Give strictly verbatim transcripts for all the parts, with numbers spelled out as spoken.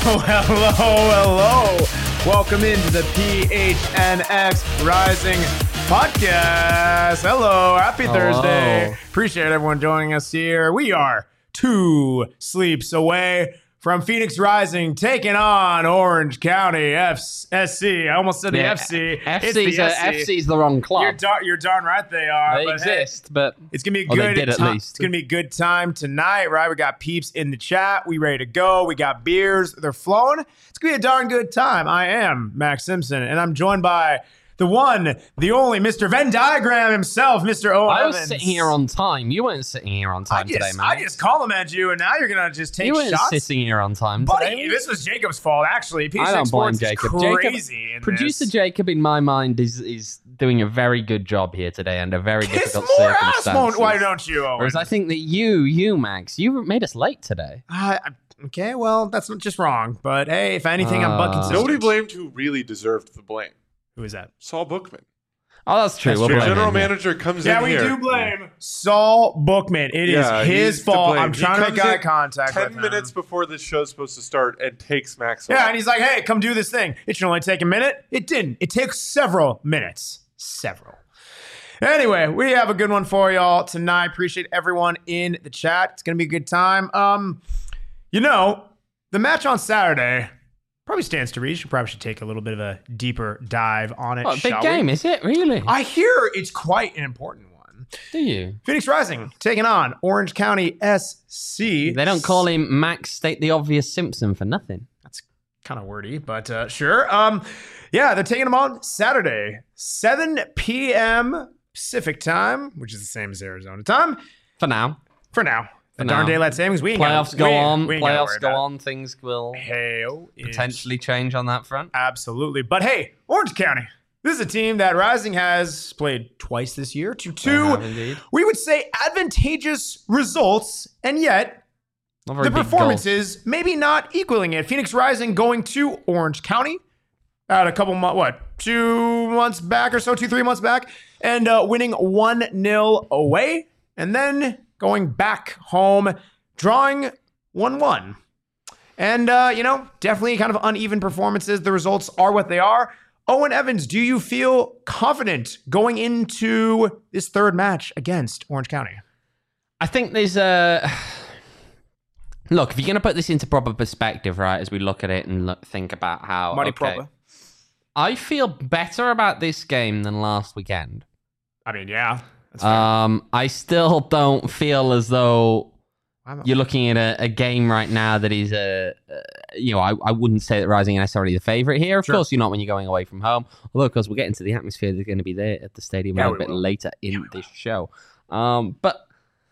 hello, hello. Welcome into the P H N X Rising podcast. Hello, happy Hello. Thursday. Appreciate everyone joining us here. We are two sleeps away from Phoenix Rising taking on Orange County F S C. I almost said the Yeah, F C. F C's, It's the uh, S C. F C's the wrong club. You're, dar- you're darn right they are. they but hey, exist, but it's gonna be a Or they good did at time. least. It's gonna be a good time tonight, right? We got peeps in the chat. We ready to go. We got beers. They're flowing. It's gonna be a darn good time. I am Max Simpson, and I'm joined by the one, the only Mister Venn Diagram himself, Mister Owen I was Evans. sitting here on time. You weren't sitting here on I time just, today, man. I just compliment you, and now you're gonna just take you weren't shots. sitting here on time Buddy, today. this was Jacob's fault, actually. P H N X I don't blame Sports is Jacob. Crazy Jacob in Producer this. Jacob, in my mind, is is doing a very good job here today under very Kiss difficult more ass, circumstances. won't- why don't you, Owen? Whereas I think that you, you, Max, you made us late today. Uh, okay, well, that's not just wrong, but hey, if anything, I'm buck Uh, consistent. Nobody blamed who really deserved the blame. Who is that? Saul Bookman. Oh, that's true. That's we'll true. blame General him, yeah. manager comes Yeah, in we here. do blame Saul Bookman. It is Yeah, his he's to fault. blame. I'm He trying to make comes eye in contact Ten with him. minutes before the show's supposed to start and takes Max Yeah, off. and he's like, hey, come do this thing. It should only take a minute. It didn't. It takes several minutes. Several. Anyway, we have a good one for y'all tonight. Appreciate everyone in the chat. It's going to be a good time. Um, You know, the match on Saturday probably stands to reach. You probably should take a little bit of a deeper dive on it, What, a big shall game, we? is it? Really? I hear it's quite an important one. Do you? Phoenix Rising taking on Orange County S C. They don't call him Max State the Obvious Simpson for nothing. That's kind of wordy, but uh, sure. Um, yeah, they're taking them on Saturday, seven p.m. Pacific time, which is the same as Arizona time For now. for now. For The darn now. daylight savings. We ain't Playoffs gotta, go we ain't- on. we ain't gotta worry Playoffs go about on. Things will it. Hail is- potentially change on that front. Absolutely. But hey, Orange County. This is a team that Rising has played twice this year to two, have indeed. we would say, advantageous results, and yet Not very the big performances maybe not equaling it. Phoenix Rising going to Orange County at a couple months, what, two months back or so, two, three months back, and uh, winning one nil away, and then going back home, drawing one one. And, uh, you know, definitely kind of uneven performances. The results are what they are. Owen Evans, do you feel confident going into this third match against Orange County? I think there's a... Look, if you're going to put this into proper perspective, right, as we look at it and look, think about how... Money okay, proper. I feel better about this game than last weekend. I mean, yeah. That's fair. Um, I still don't feel as though I'm- you're looking at a, a game right now that is a, uh, you know, I, I wouldn't say that Rising are necessarily the favorite here. Of Sure. course, you're not when you're going away from home. Although, of course, we'll get into the atmosphere that's going to be there at the stadium Yeah, a we little bit will. later in this show. Um, but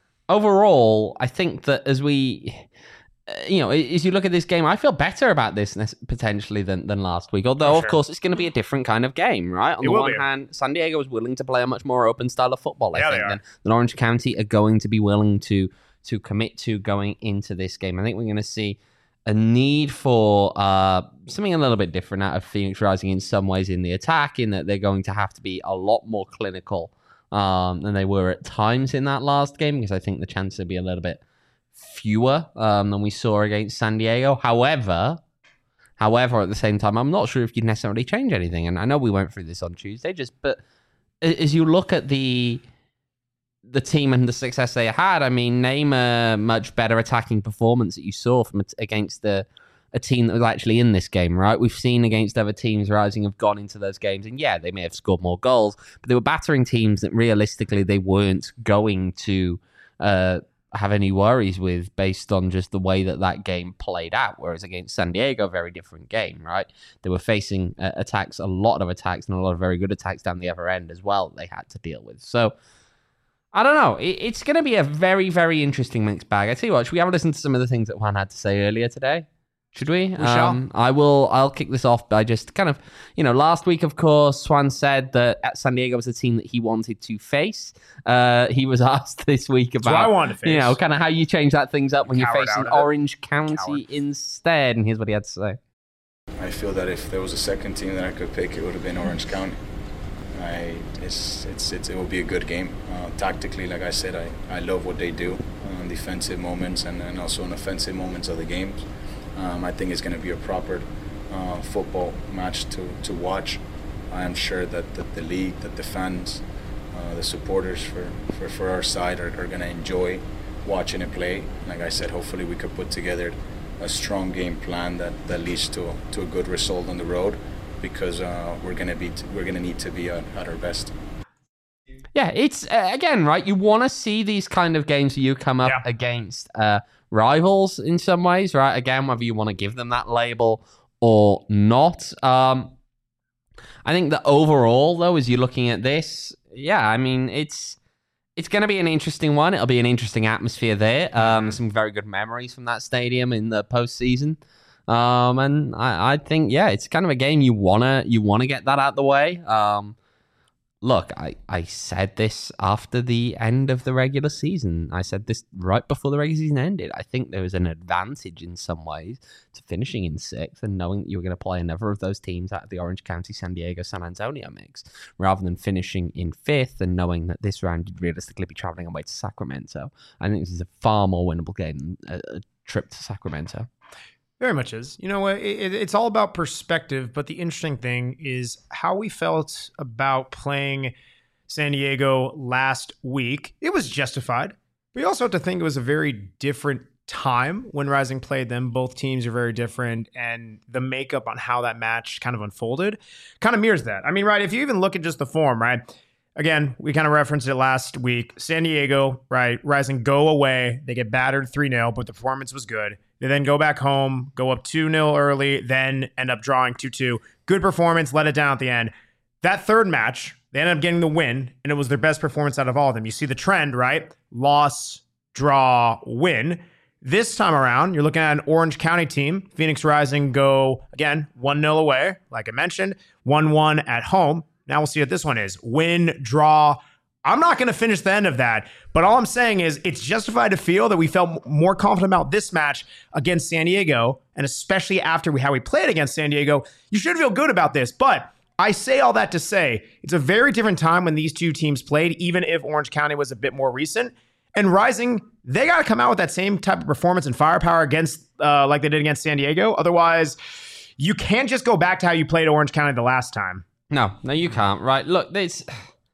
overall, I think that as we, uh, you know, as you look at this game, I feel better about this nes- potentially than, than last week. Although, For of sure. course, it's going to be a different kind of game, right? On It the will one be. hand, San Diego is willing to play a much more open style of football, I Yeah, they think, are. than, than Orange County are going to be willing to to commit to going into this game. I think we're going to see a need for uh, something a little bit different out of Phoenix Rising in some ways in the attack, in that they're going to have to be a lot more clinical um, than they were at times in that last game, because I think the chances will be a little bit fewer um, than we saw against San Diego. However, however, at the same time, I'm not sure if you'd necessarily change anything. And I know we went through this on Tuesday, just but a- as you look at the the team and the success they had, I mean, name a much better attacking performance that you saw from it against the a team that was actually in this game, right? We've seen against other teams Rising have gone into those games, and yeah, they may have scored more goals, but they were battering teams that realistically they weren't going to uh, have any worries with based on just the way that that game played out. Whereas against San Diego, very different game, right? They were facing uh, attacks, a lot of attacks, and a lot of very good attacks down the other end as well that they had to deal with. So I don't know. It, it's going to be a very, very interesting mixed bag. I tell you what, should we have a listen to some of the things that Juan had to say earlier today? Should we? We shall. Um, I will. I'll kick this off by just kind of, you know, last week, of course, Swan said that at San Diego was a team that he wanted to face. Uh, he was asked this week That's about, what I wanted to face. you know, kind of how you change that things up when Coward you're facing out of it. Orange County Coward. instead. And here's what he had to say. I feel that if there was a second team that I could pick, it would have been Orange County. I, it's, it's, it's, it will be a good game. Uh, tactically, like I said, I, I love what they do on defensive moments and, and also on offensive moments of the games. Um, I think it's going to be a proper uh, football match to, to watch. I am sure that, that the league, that the fans, uh, the supporters for, for, for our side are, are going to enjoy watching it play. Like I said, hopefully we could put together a strong game plan that, that leads to, to a good result on the road, because uh, we're going to be t- we're going to need to be at, at our best. Yeah, it's uh, again, right? You want to see these kind of games where you come up Yeah. against uh, rivals in some ways, right? Again, whether you want to give them that label or not. Um, I think that overall, though, as you're looking at this, yeah, I mean, it's it's going to be an interesting one. It'll be an interesting atmosphere there. Um, some very good memories from that stadium in the postseason. Um, and I, I think, yeah, it's kind of a game you wanna you wanna get that out the way. Um, look, I, I said this after the end of the regular season. I said this right before the regular season ended. I think there was an advantage in some ways to finishing in sixth and knowing that you were going to play another of those teams out of the Orange County, San Diego, San Antonio mix, rather than finishing in fifth and knowing that this round you'd realistically be traveling away to Sacramento. I think this is a far more winnable game than a, a trip to Sacramento. Very much is. You know what? It, it's all about perspective, but the interesting thing is how we felt about playing San Diego last week. It was justified. But you also have to think it was a very different time when Rising played them. Both teams are very different, and the makeup on how that match kind of unfolded kind of mirrors that. I mean, right, if you even look at just the form, right? Again, we kind of referenced it last week. San Diego, right? Rising go away. They get battered three nil, but the performance was good. They then go back home, go up two nil early, then end up drawing two two. Good performance, let it down at the end. That third match, they ended up getting the win, and it was their best performance out of all of them. You see the trend, right? Loss, draw, win. This time around, you're looking at an Orange County team. Phoenix Rising go, again, one nil away, like I mentioned, one one at home. Now we'll see what this one is. Win, draw. I'm not going to finish the end of that, but all I'm saying is it's justified to feel that we felt more confident about this match against San Diego, and especially after we, how we played against San Diego. You should feel good about this, but I say all that to say it's a very different time when these two teams played, even if Orange County was a bit more recent. And Rising, they got to come out with that same type of performance and firepower against, uh, like they did against San Diego. Otherwise, you can't just go back to how you played Orange County the last time. No, no, you can't. Right. Look, there's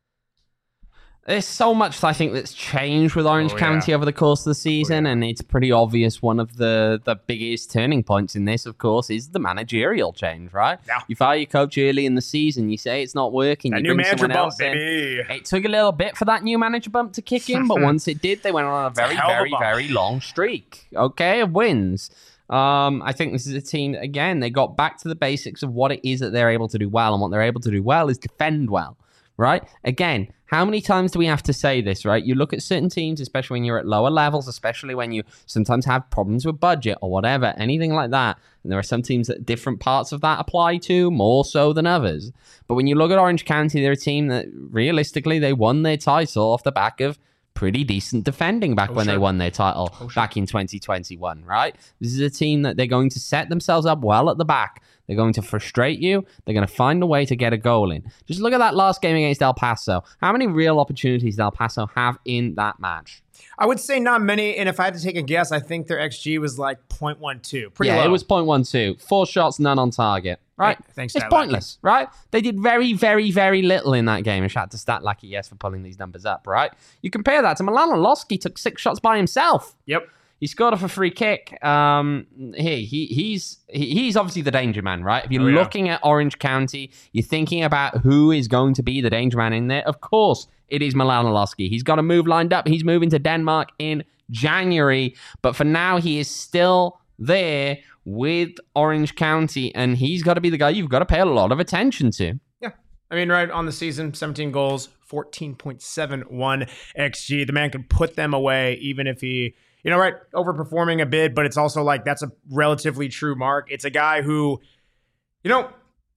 there's so much I think that's changed with Orange Oh, County yeah. over the course of the season, Oh, yeah. and it's pretty obvious one of the, the biggest turning points in this, of course, is the managerial change, right? Yeah. You fire your coach early in the season, you say it's not working, That you new bring manager someone bump, else in. baby. It took a little bit for that new manager bump to kick in, but once it did, they went on a very, hell of a very, bump. very long streak, okay, of wins. Um, I think this is a team, again, they got back to the basics of what it is that they're able to do well, and what they're able to do well is defend well, right? Again, how many times do we have to say this, right? You look at certain teams, especially when you're at lower levels, especially when you sometimes have problems with budget or whatever, anything like that, and there are some teams that different parts of that apply to, more so than others. But when you look at Orange County, they're a team that, realistically, they won their title off the back of pretty decent defending back Oh, when sure. they won their title Oh, sure. back in twenty twenty-one, right? This is a team that they're going to set themselves up well at the back. They're going to frustrate you. They're going to find a way to get a goal in. Just look at that last game against El Paso. How many real opportunities did El Paso have in that match? I would say not many, and if I had to take a guess, I think their X G was like zero point one two. Pretty yeah, low. it was point one two. Four shots, none on target. Right? Hey, thanks, It's Stat pointless, right? They did very, very, very little in that game. And shout out to Stat Lackey, yes, for pulling these numbers up, right? You compare that to Milan Losky took six shots by himself. Yep. He scored off a free kick. Um, hey, he he's he, he's obviously the danger man, right? If you're Oh, yeah. looking at Orange County, you're thinking about who is going to be the danger man in there. Of course, it is Milan Losky. He's got a move lined up. He's moving to Denmark in January, but for now, he is still there with Orange County, and he's got to be the guy you've got to pay a lot of attention to. Yeah. I mean, right on the season, seventeen goals, fourteen point seven one X G. The man could put them away even if he, you know, right, overperforming a bit, but it's also like that's a relatively true mark. It's a guy who, you know,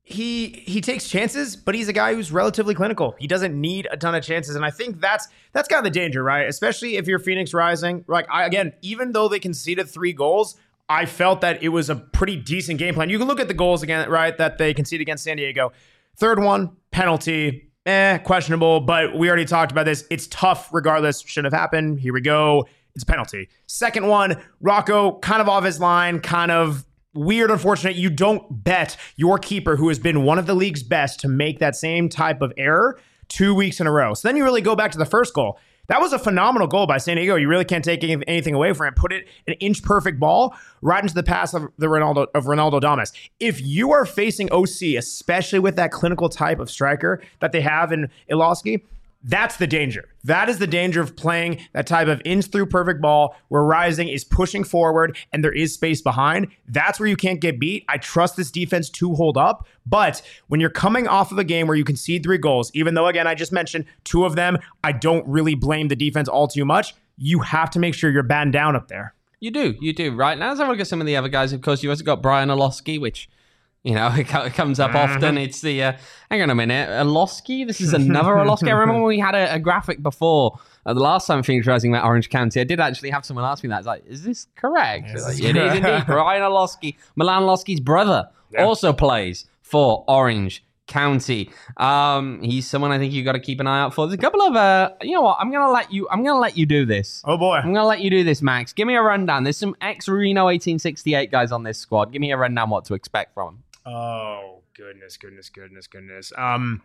he he takes chances, but he's a guy who's relatively clinical. He doesn't need a ton of chances, and I think that's that's kind of the danger, right? Especially if you're Phoenix Rising. Like, I, again, even though they conceded three goals, I felt that it was a pretty decent game plan. You can look at the goals again, right, that they conceded against San Diego. Third one, penalty, eh, questionable, but we already talked about this. It's tough regardless. Shouldn't have happened. Here we go. It's a penalty. Second one, Rocco kind of off his line, kind of weird, unfortunate. You don't bet your keeper, who has been one of the league's best, to make that same type of error two weeks in a row. So then you really go back to the first goal. That was a phenomenal goal by San Diego. You really can't take anything away from it. Put it an inch perfect ball right into the pass of the Ronaldo of Ronaldo Damas. If you are facing O C, especially with that clinical type of striker that they have in Iloski, that's the danger. That is the danger of playing that type of inch through perfect ball where Rising is pushing forward and there is space behind. That's where you can't get beat. I trust this defense to hold up. But when you're coming off of a game where you concede three goals, even though, again, I just mentioned two of them, I don't really blame the defense all too much. You have to make sure you're battened down up there. You do. You do. Right now, let's have a look at some of the other guys. Of course, you've also got Brian Iloski, which... You know, it comes up mm-hmm. often. It's the, uh, hang on a minute, Iloski? This is another Iloski. I remember when we had a, a graphic before, uh, the last time Phoenix Rising met Orange County, I did actually have someone ask me that. It's like, is this correct? Yes, like, it is indeed. Brian Iloski, Milan Iloski's brother, yeah. also plays for Orange County. Um, he's someone I think you got to keep an eye out for. There's a couple of, uh, you know what, I'm going to let you, I'm going to let you do this. Oh boy. I'm going to let you do this, Max. Give me a rundown. There's some ex-Reno eighteen sixty-eight guys on this squad. Give me a rundown what to expect from them. Oh, goodness, goodness, goodness, goodness. Um,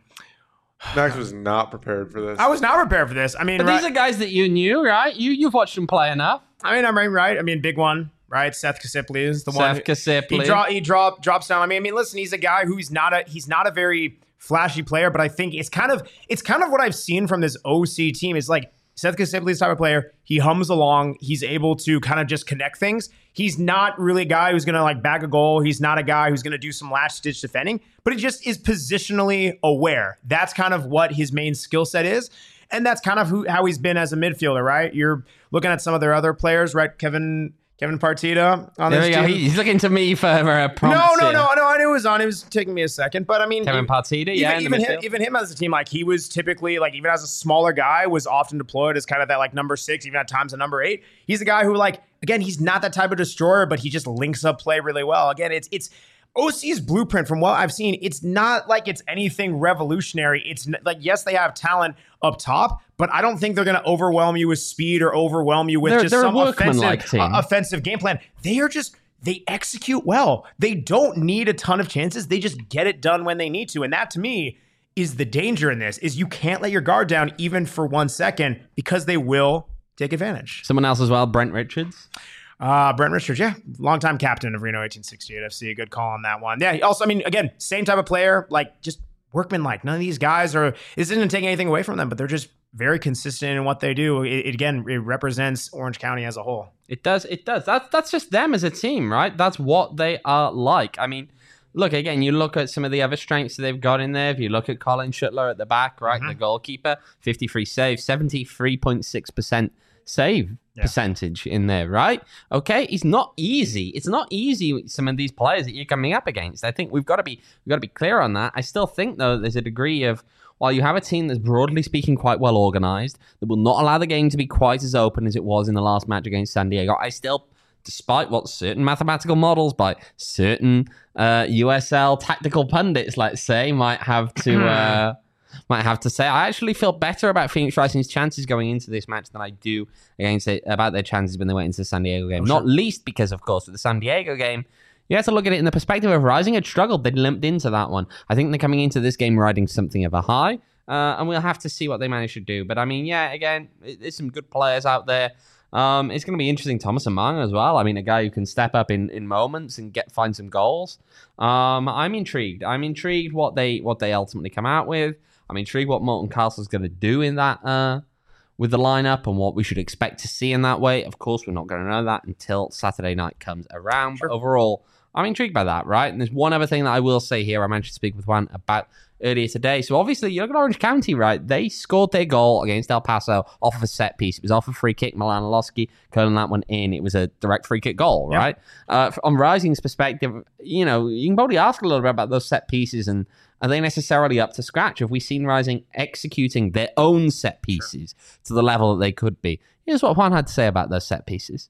Max was not prepared for this. I was not prepared for this. I mean, but right, these are guys that you knew, right? You, you've watched them play enough. I mean, I'm right, right. I mean, big one, right? Seth Kasipli is the Seth one. Seth Kasipli. He, draw, he drop, drops down. I mean, I mean, listen, he's a guy who's not a, he's not a very flashy player, but I think it's kind of, it's kind of what I've seen from this O C team. Is like, Seth Kasipli's type of player. He hums along. He's able to kind of just connect things. He's not really a guy who's going to like bag a goal. He's not a guy who's going to do some last stitch defending, but he just is positionally aware. That's kind of what his main skill set is. And that's kind of who, how he's been as a midfielder, right? You're looking at some of their other players, right? Kevin Kevin Partida on there this we go. team. He's looking to me for a prompt. No, no, here. no, no. I knew it was on. It was taking me a second, but I mean, Kevin Partida, yeah, even, even him, even him as a team, like he was typically like even as a smaller guy, was often deployed as kind of that like number six, even at times a number eight. He's a guy who like again, he's not that type of destroyer, but he just links up play really well. Again, it's it's. O C's blueprint, from what I've seen, it's not like it's anything revolutionary. It's like, yes, they have talent up top, but I don't think they're going to overwhelm you with speed or overwhelm you with they're, just they're some offensive, uh, offensive game plan. They are just, they execute well. They don't need a ton of chances. They just get it done when they need to. And that, to me, is the danger in this, is you can't let your guard down even for one second because they will take advantage. Someone else as well, Brent Richards. Uh, Brent Richards, yeah, longtime captain of Reno eighteen sixty-eight F C. Good call on that one. Yeah, also, I mean, again, same type of player, like just workman-like. None of these guys are, this isn't taking anything away from them, but they're just very consistent in what they do. It, it again, it represents Orange County as a whole. It does, it does. That's, that's just them as a team, right? That's what they are like. I mean, look, again, you look at some of the other strengths that they've got in there. If you look at Colin Schuttler at the back, right, mm-hmm. the goalkeeper, fifty-three saves, seventy-three point six percent save yeah. percentage in there, right? Okay, it's not easy. It's not easy with some of these players that you're coming up against. I think we've got to be we've got to be clear on that. I still think though there's a degree of, while you have a team that's broadly speaking quite well organized, that will not allow the game to be quite as open as it was in the last match against San Diego. I still, despite what certain mathematical models by certain uh, U S L tactical pundits, let's say, might have to. Uh, Might have to say, I actually feel better about Phoenix Rising's chances going into this match than I do against it, about their chances when they went into the San Diego game. Oh, Not sure. least because, of course, with the San Diego game, you have to look at it in the perspective of Rising had struggled. They'd limped into that one. I think they're coming into this game riding something of a high, uh, and we'll have to see what they manage to do. But I mean, yeah, again, there's some good players out there. Um, it's going to be interesting. Thomas Amang as well. I mean, a guy who can step up in, in moments and get find some goals. Um, I'm intrigued. I'm intrigued what they what they ultimately come out with. I'm intrigued what Molten Castle's going to do in that uh, with the lineup and what we should expect to see in that way. Of course, we're not going to know that until Saturday night comes around. Sure. But overall, I'm intrigued by that, right? And there's one other thing that I will say here. I managed to speak with Juan about earlier today. So obviously, you look at Orange County, right? They scored their goal against El Paso off of a set piece. It was off a free kick. Milan Iloski curling that one in. It was a direct free kick goal, yep. right? Uh, on Rising's perspective, you know, you can probably ask a little bit about those set pieces and are they necessarily up to scratch? Have we seen Rising executing their own set pieces sure. to the level that they could be? Here's what Juan had to say about those set pieces.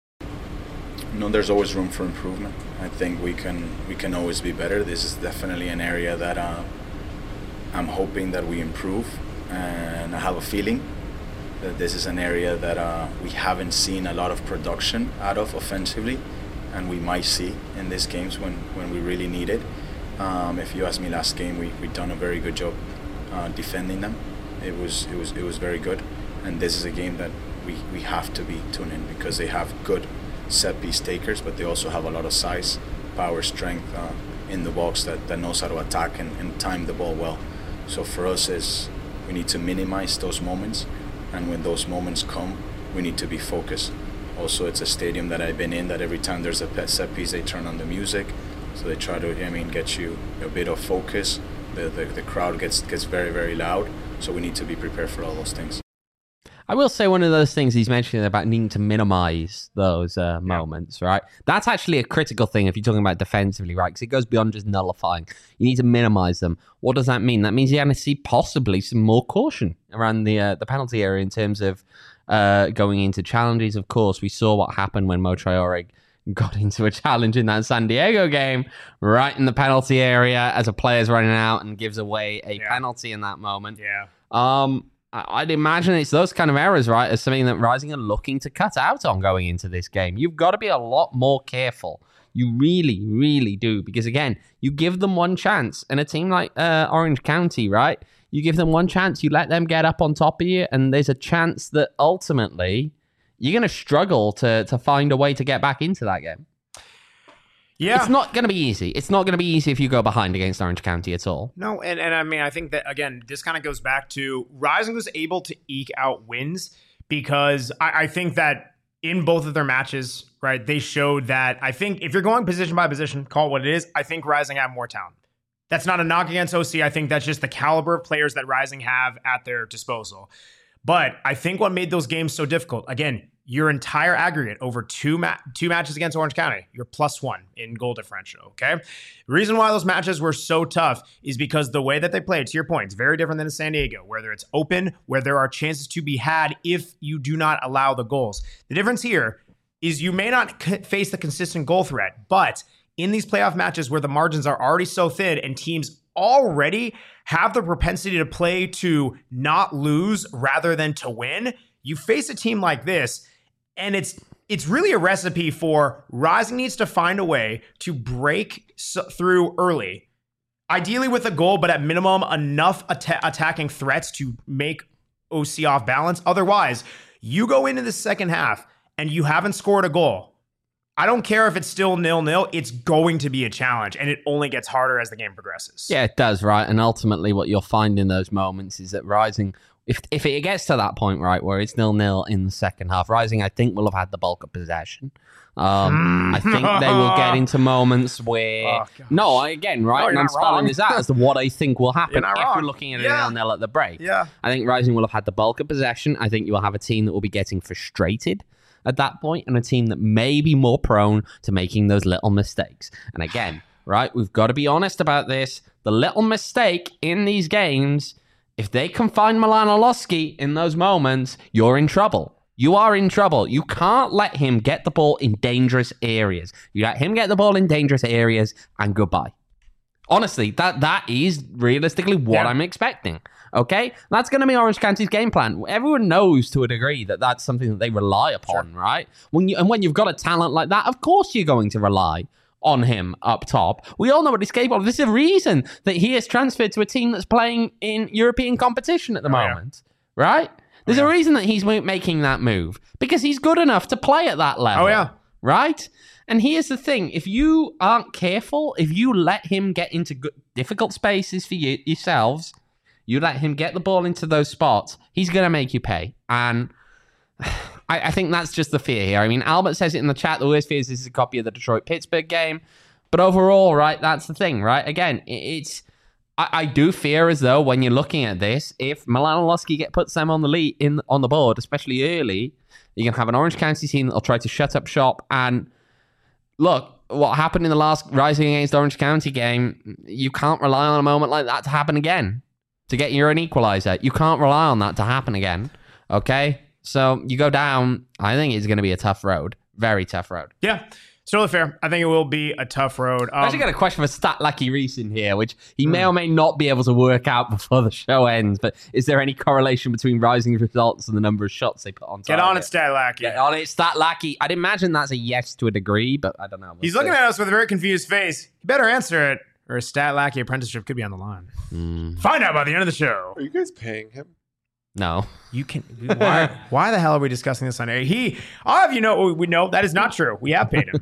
No, there's always room for improvement. I think we can we can always be better. This is definitely an area that uh, I'm hoping that we improve, and I have a feeling that this is an area that uh, we haven't seen a lot of production out of offensively, and we might see in these games when, when we really need it. Um, if you ask me, last game we we done a very good job uh, defending them. It was it was it was very good, and this is a game that we, we have to be tuned in because they have good set piece takers, but they also have a lot of size, power, strength uh, in the box that, that knows how to attack and, and time the ball well. So for us is we need to minimize those moments, and when those moments come, we need to be focused. Also, it's a stadium that I've been in that every time there's a set piece, they turn on the music, so they try to I mean get you a bit of focus. The the, the crowd gets gets very very loud, so we need to be prepared for all those things. I will say one of those things he's mentioning about needing to minimize those uh, moments, right? That's actually a critical thing if you're talking about defensively, right? Because it goes beyond just nullifying. You need to minimize them. What does that mean? That means you're going to see possibly some more caution around the uh, the penalty area in terms of uh, going into challenges. Of course, we saw what happened when Mo Traore got into a challenge in that San Diego game, right in the penalty area as a player's running out and gives away a yeah. penalty in that moment. Yeah. Um... I'd imagine it's those kind of errors, right, as something that Rising are looking to cut out on going into this game. You've got to be a lot more careful. You really, really do. Because, again, you give them one chance. And a team like uh, Orange County, right, you give them one chance. You let them get up on top of you. And there's a chance that ultimately you're going to struggle to to find a way to get back into that game. Yeah. It's not going to be easy. It's not going to be easy if you go behind against Orange County at all. No, and, and I mean, I think that, again, this kind of goes back to Rising was able to eke out wins because I, I think that in both of their matches, right, they showed that, I think if you're going position by position, call it what it is, I think Rising have more talent. That's not a knock against O C. I think that's just the caliber of players that Rising have at their disposal. But I think what made those games so difficult, again, your entire aggregate over two ma- two matches against Orange County, you're plus one in goal differential, okay? The reason why those matches were so tough is because the way that they played, to your point, it's very different than in San Diego, where it's open, where there are chances to be had if you do not allow the goals. The difference here is you may not c- face the consistent goal threat, but in these playoff matches where the margins are already so thin and teams already have the propensity to play to not lose rather than to win, you face a team like this, and it's it's really a recipe for Rising needs to find a way to break so, through early, ideally with a goal, but at minimum enough at- attacking threats to make O C off balance. Otherwise, you go into the second half and you haven't scored a goal. I don't care if it's still nil-nil, it's going to be a challenge, and it only gets harder as the game progresses. Yeah, it does, right? And ultimately what you'll find in those moments is that Rising, if if it gets to that point, right, where it's nil-nil in the second half, Rising, I think, will have had the bulk of possession. Um, I think they will get into moments where... Oh, no, again, right, no, and I'm spelling this out as to what I think will happen if wrong. we're looking at yeah. a nil-nil at the break. Yeah. I think Rising will have had the bulk of possession. I think you will have a team that will be getting frustrated at that point, and a team that may be more prone to making those little mistakes. And again, right, we've got to be honest about this. The little mistake in these games, if they can find Milan Orlowski in those moments, you're in trouble. You are in trouble. You can't let him get the ball in dangerous areas. You let him get the ball in dangerous areas, and goodbye. Honestly, that that is realistically what yeah. I'm expecting. Okay? That's going to be Orange County's game plan. Everyone knows to a degree that that's something that they rely upon, sure. right? When you And when you've got a talent like that, of course you're going to rely on him up top. We all know what he's capable of. This is a reason that he is transferred to a team that's playing in European competition at the oh, moment, yeah. right? There's oh, yeah. a reason that he's making that move, because he's good enough to play at that level. Oh, yeah. Right? And here's the thing. If you aren't careful, if you let him get into good, difficult spaces for you yourselves, you let him get the ball into those spots, he's going to make you pay. And I, I think that's just the fear here. I mean, Albert says it in the chat, the worst fear is this is a copy of the Detroit-Pittsburgh game. But overall, right, that's the thing, right? Again, it's... I, I do fear as though when you're looking at this, if Milan Orlowski get puts them on the lead in on the board, especially early, you're going to have an Orange County team that'll try to shut up shop. And look, what happened in the last Rising against Orange County game, you can't rely on a moment like that to happen again. To get your own equalizer. You can't rely on that to happen again. Okay? So you go down, I think it's going to be a tough road. Very tough road. Yeah. It's totally fair. I think it will be a tough road. Um, I actually got a question for Stat Lucky Reese in here, which he may or may not be able to work out before the show ends. But is there any correlation between Rising's results and the number of shots they put on target? Get on it, Stat Lucky. Get on it, Stat Lucky. I'd imagine that's a yes to a degree, but I don't know. We'll He's see. looking at us with a very confused face. You better answer it, or a Stat Lackey apprenticeship could be on the line. Mm, Find out by the end of the show. Are you guys paying him? no. You can. Why? Why the hell are we discussing this on air? He. I'll have you know. We know that is not true. We have paid him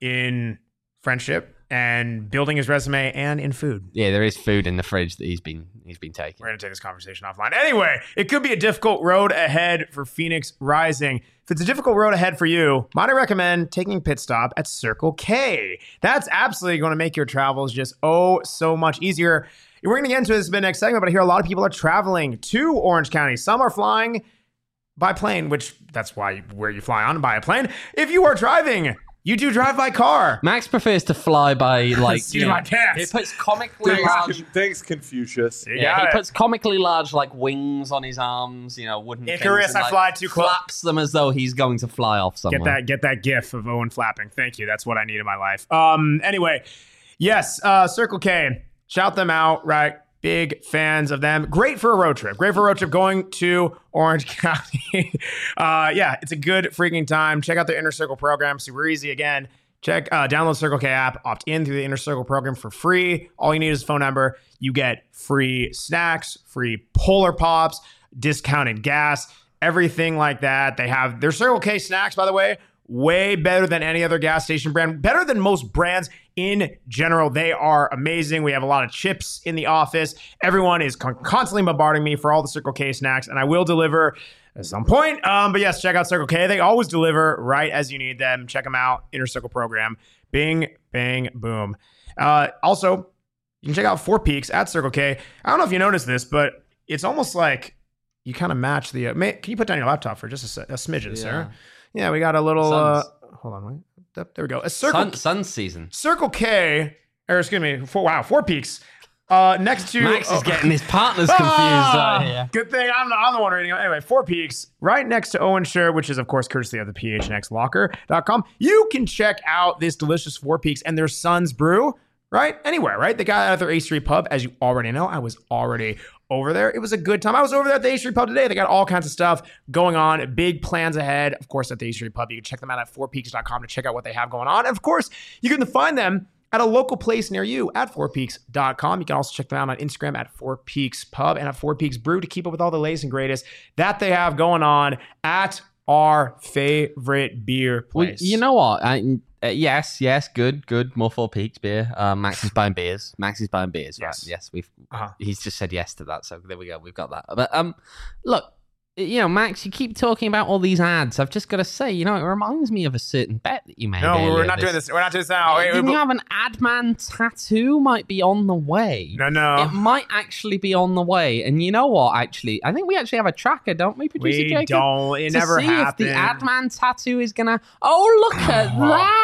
in friendship and building his resume and in food. Yeah, there is food in the fridge that he's been he's been taking. We're going to take this conversation offline. Anyway, it could be a difficult road ahead for Phoenix Rising. If it's a difficult road ahead for you, might I recommend taking a pit stop at Circle K. That's absolutely going to make your travels just oh so much easier. We're going to get into this in the next segment, but I hear a lot of people are traveling to Orange County. Some are flying by plane, which that's why where you fly on by a plane. If you are driving, you do drive by car. Max prefers to fly by like Seat you of know, my pants. He puts comically Thanks, large. Con- thanks Confucius. You Yeah, got he it. puts comically large like wings on his arms, you know, wooden things, Icarus, and, I like, fly too close. flaps them as though he's going to fly off somewhere. Get that, get that gif of Owen flapping. Thank you. That's what I need in my life. Um. Anyway, yes. Uh, Circle K. Shout them out. Right. Big fans of them. Great for a road trip. Great for a road trip going to Orange County. uh, yeah, it's a good freaking time. Check out their Inner Circle program. Super easy. Again, check, uh, download Circle K app, opt in through the Inner Circle program for free. All you need is a phone number. You get free snacks, free Polar Pops, discounted gas, everything like that. They have their Circle K snacks, by the way, way better than any other gas station brand, better than most brands in general. They are amazing. We have a lot of chips in the office. Everyone is con- constantly bombarding me for all the Circle K snacks, and I will deliver at some point. Um, but yes, check out Circle K. They always deliver right as you need them. Check them out. Inner Circle program. Bing, bang, boom. Uh, also, you can check out Four Peaks at Circle K. I don't know if you noticed this, but it's almost like you kind of match the. Uh, may, can you put down your laptop for just a, a smidgen, Yeah. sir? Yeah, we got a little. Uh, Suns. hold on, wait. There we go. A Circle Sun, sun season. Circle K, or excuse me, four, wow, Four Peaks. Uh, next to Max oh, is getting his partners confused ah, right here. Good thing I'm the, I'm the one reading it. Anyway, Four Peaks, right next to Owen Shire, which is, of course, courtesy of the P H N X locker dot com. You can check out this delicious Four Peaks and their Suns brew, right? Anywhere, right? They got out of their A Street Pub, as you already know. I was already over there. It was a good time. I was over there at the A Street Pub today. They got all kinds of stuff going on, big plans ahead. Of course, at the A Street Pub, you can check them out at four peaks dot com to check out what they have going on. And of course, you can find them at a local place near you at four peaks dot com. You can also check them out on Instagram at Four Peaks Pub and at Four Peaks Brew to keep up with all the latest and greatest that they have going on at our favorite beer Well, place. you know what? I, uh, yes, yes, good, good. More Four Peaks beer. Uh, Max is buying beers. Max is buying beers. Right? Yes. Yes, we've. Uh-huh. He's just said yes to that, so there we go. We've got that. But um, look, you know, Max, you keep talking about all these ads. I've just got to say, you know, it reminds me of a certain bet that you made. No, we're earlier not doing this. We're not doing this now. Wait, Didn't wait, you have an Adman tattoo? Might be on the way. no, no. It might actually be on the way. And you know what, actually? I think we actually have a tracker, don't we, producer we Jacob? don't. It to never see happened. if the Adman tattoo is going to... Oh, look at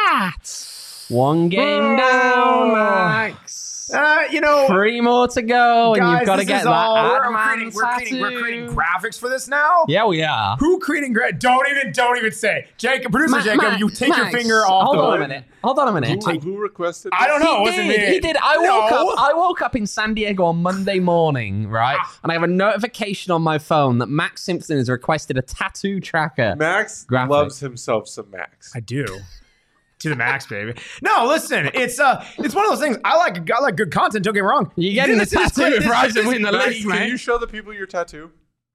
that! One game down, Max. Uh, you know, Three more to go, and guys, you've got to this get is that all, we're, Adman creating, we're, creating, we're creating tattoo. graphics for this now. Yeah, we are. Who creating gra- Don't even, don't even say. Jacob, producer Ma- Jacob, Max, you take your Max, finger off Hold the on a hood. minute. Hold on a minute. Who, who requested I don't this? know. He it wasn't did. me. He did. I woke No. up. I woke up in San Diego on Monday morning, right? And I have a notification on my phone that Max Simpson has requested a tattoo tracker. Max Graphic. loves himself some Max. I do. To the max, baby. No, listen, it's uh, it's one of those things. I like, I like good content. Don't get me wrong. You're getting This the is tattoo great. if This- Ryzen this- win the Max, list, can man. you show the people your tattoo?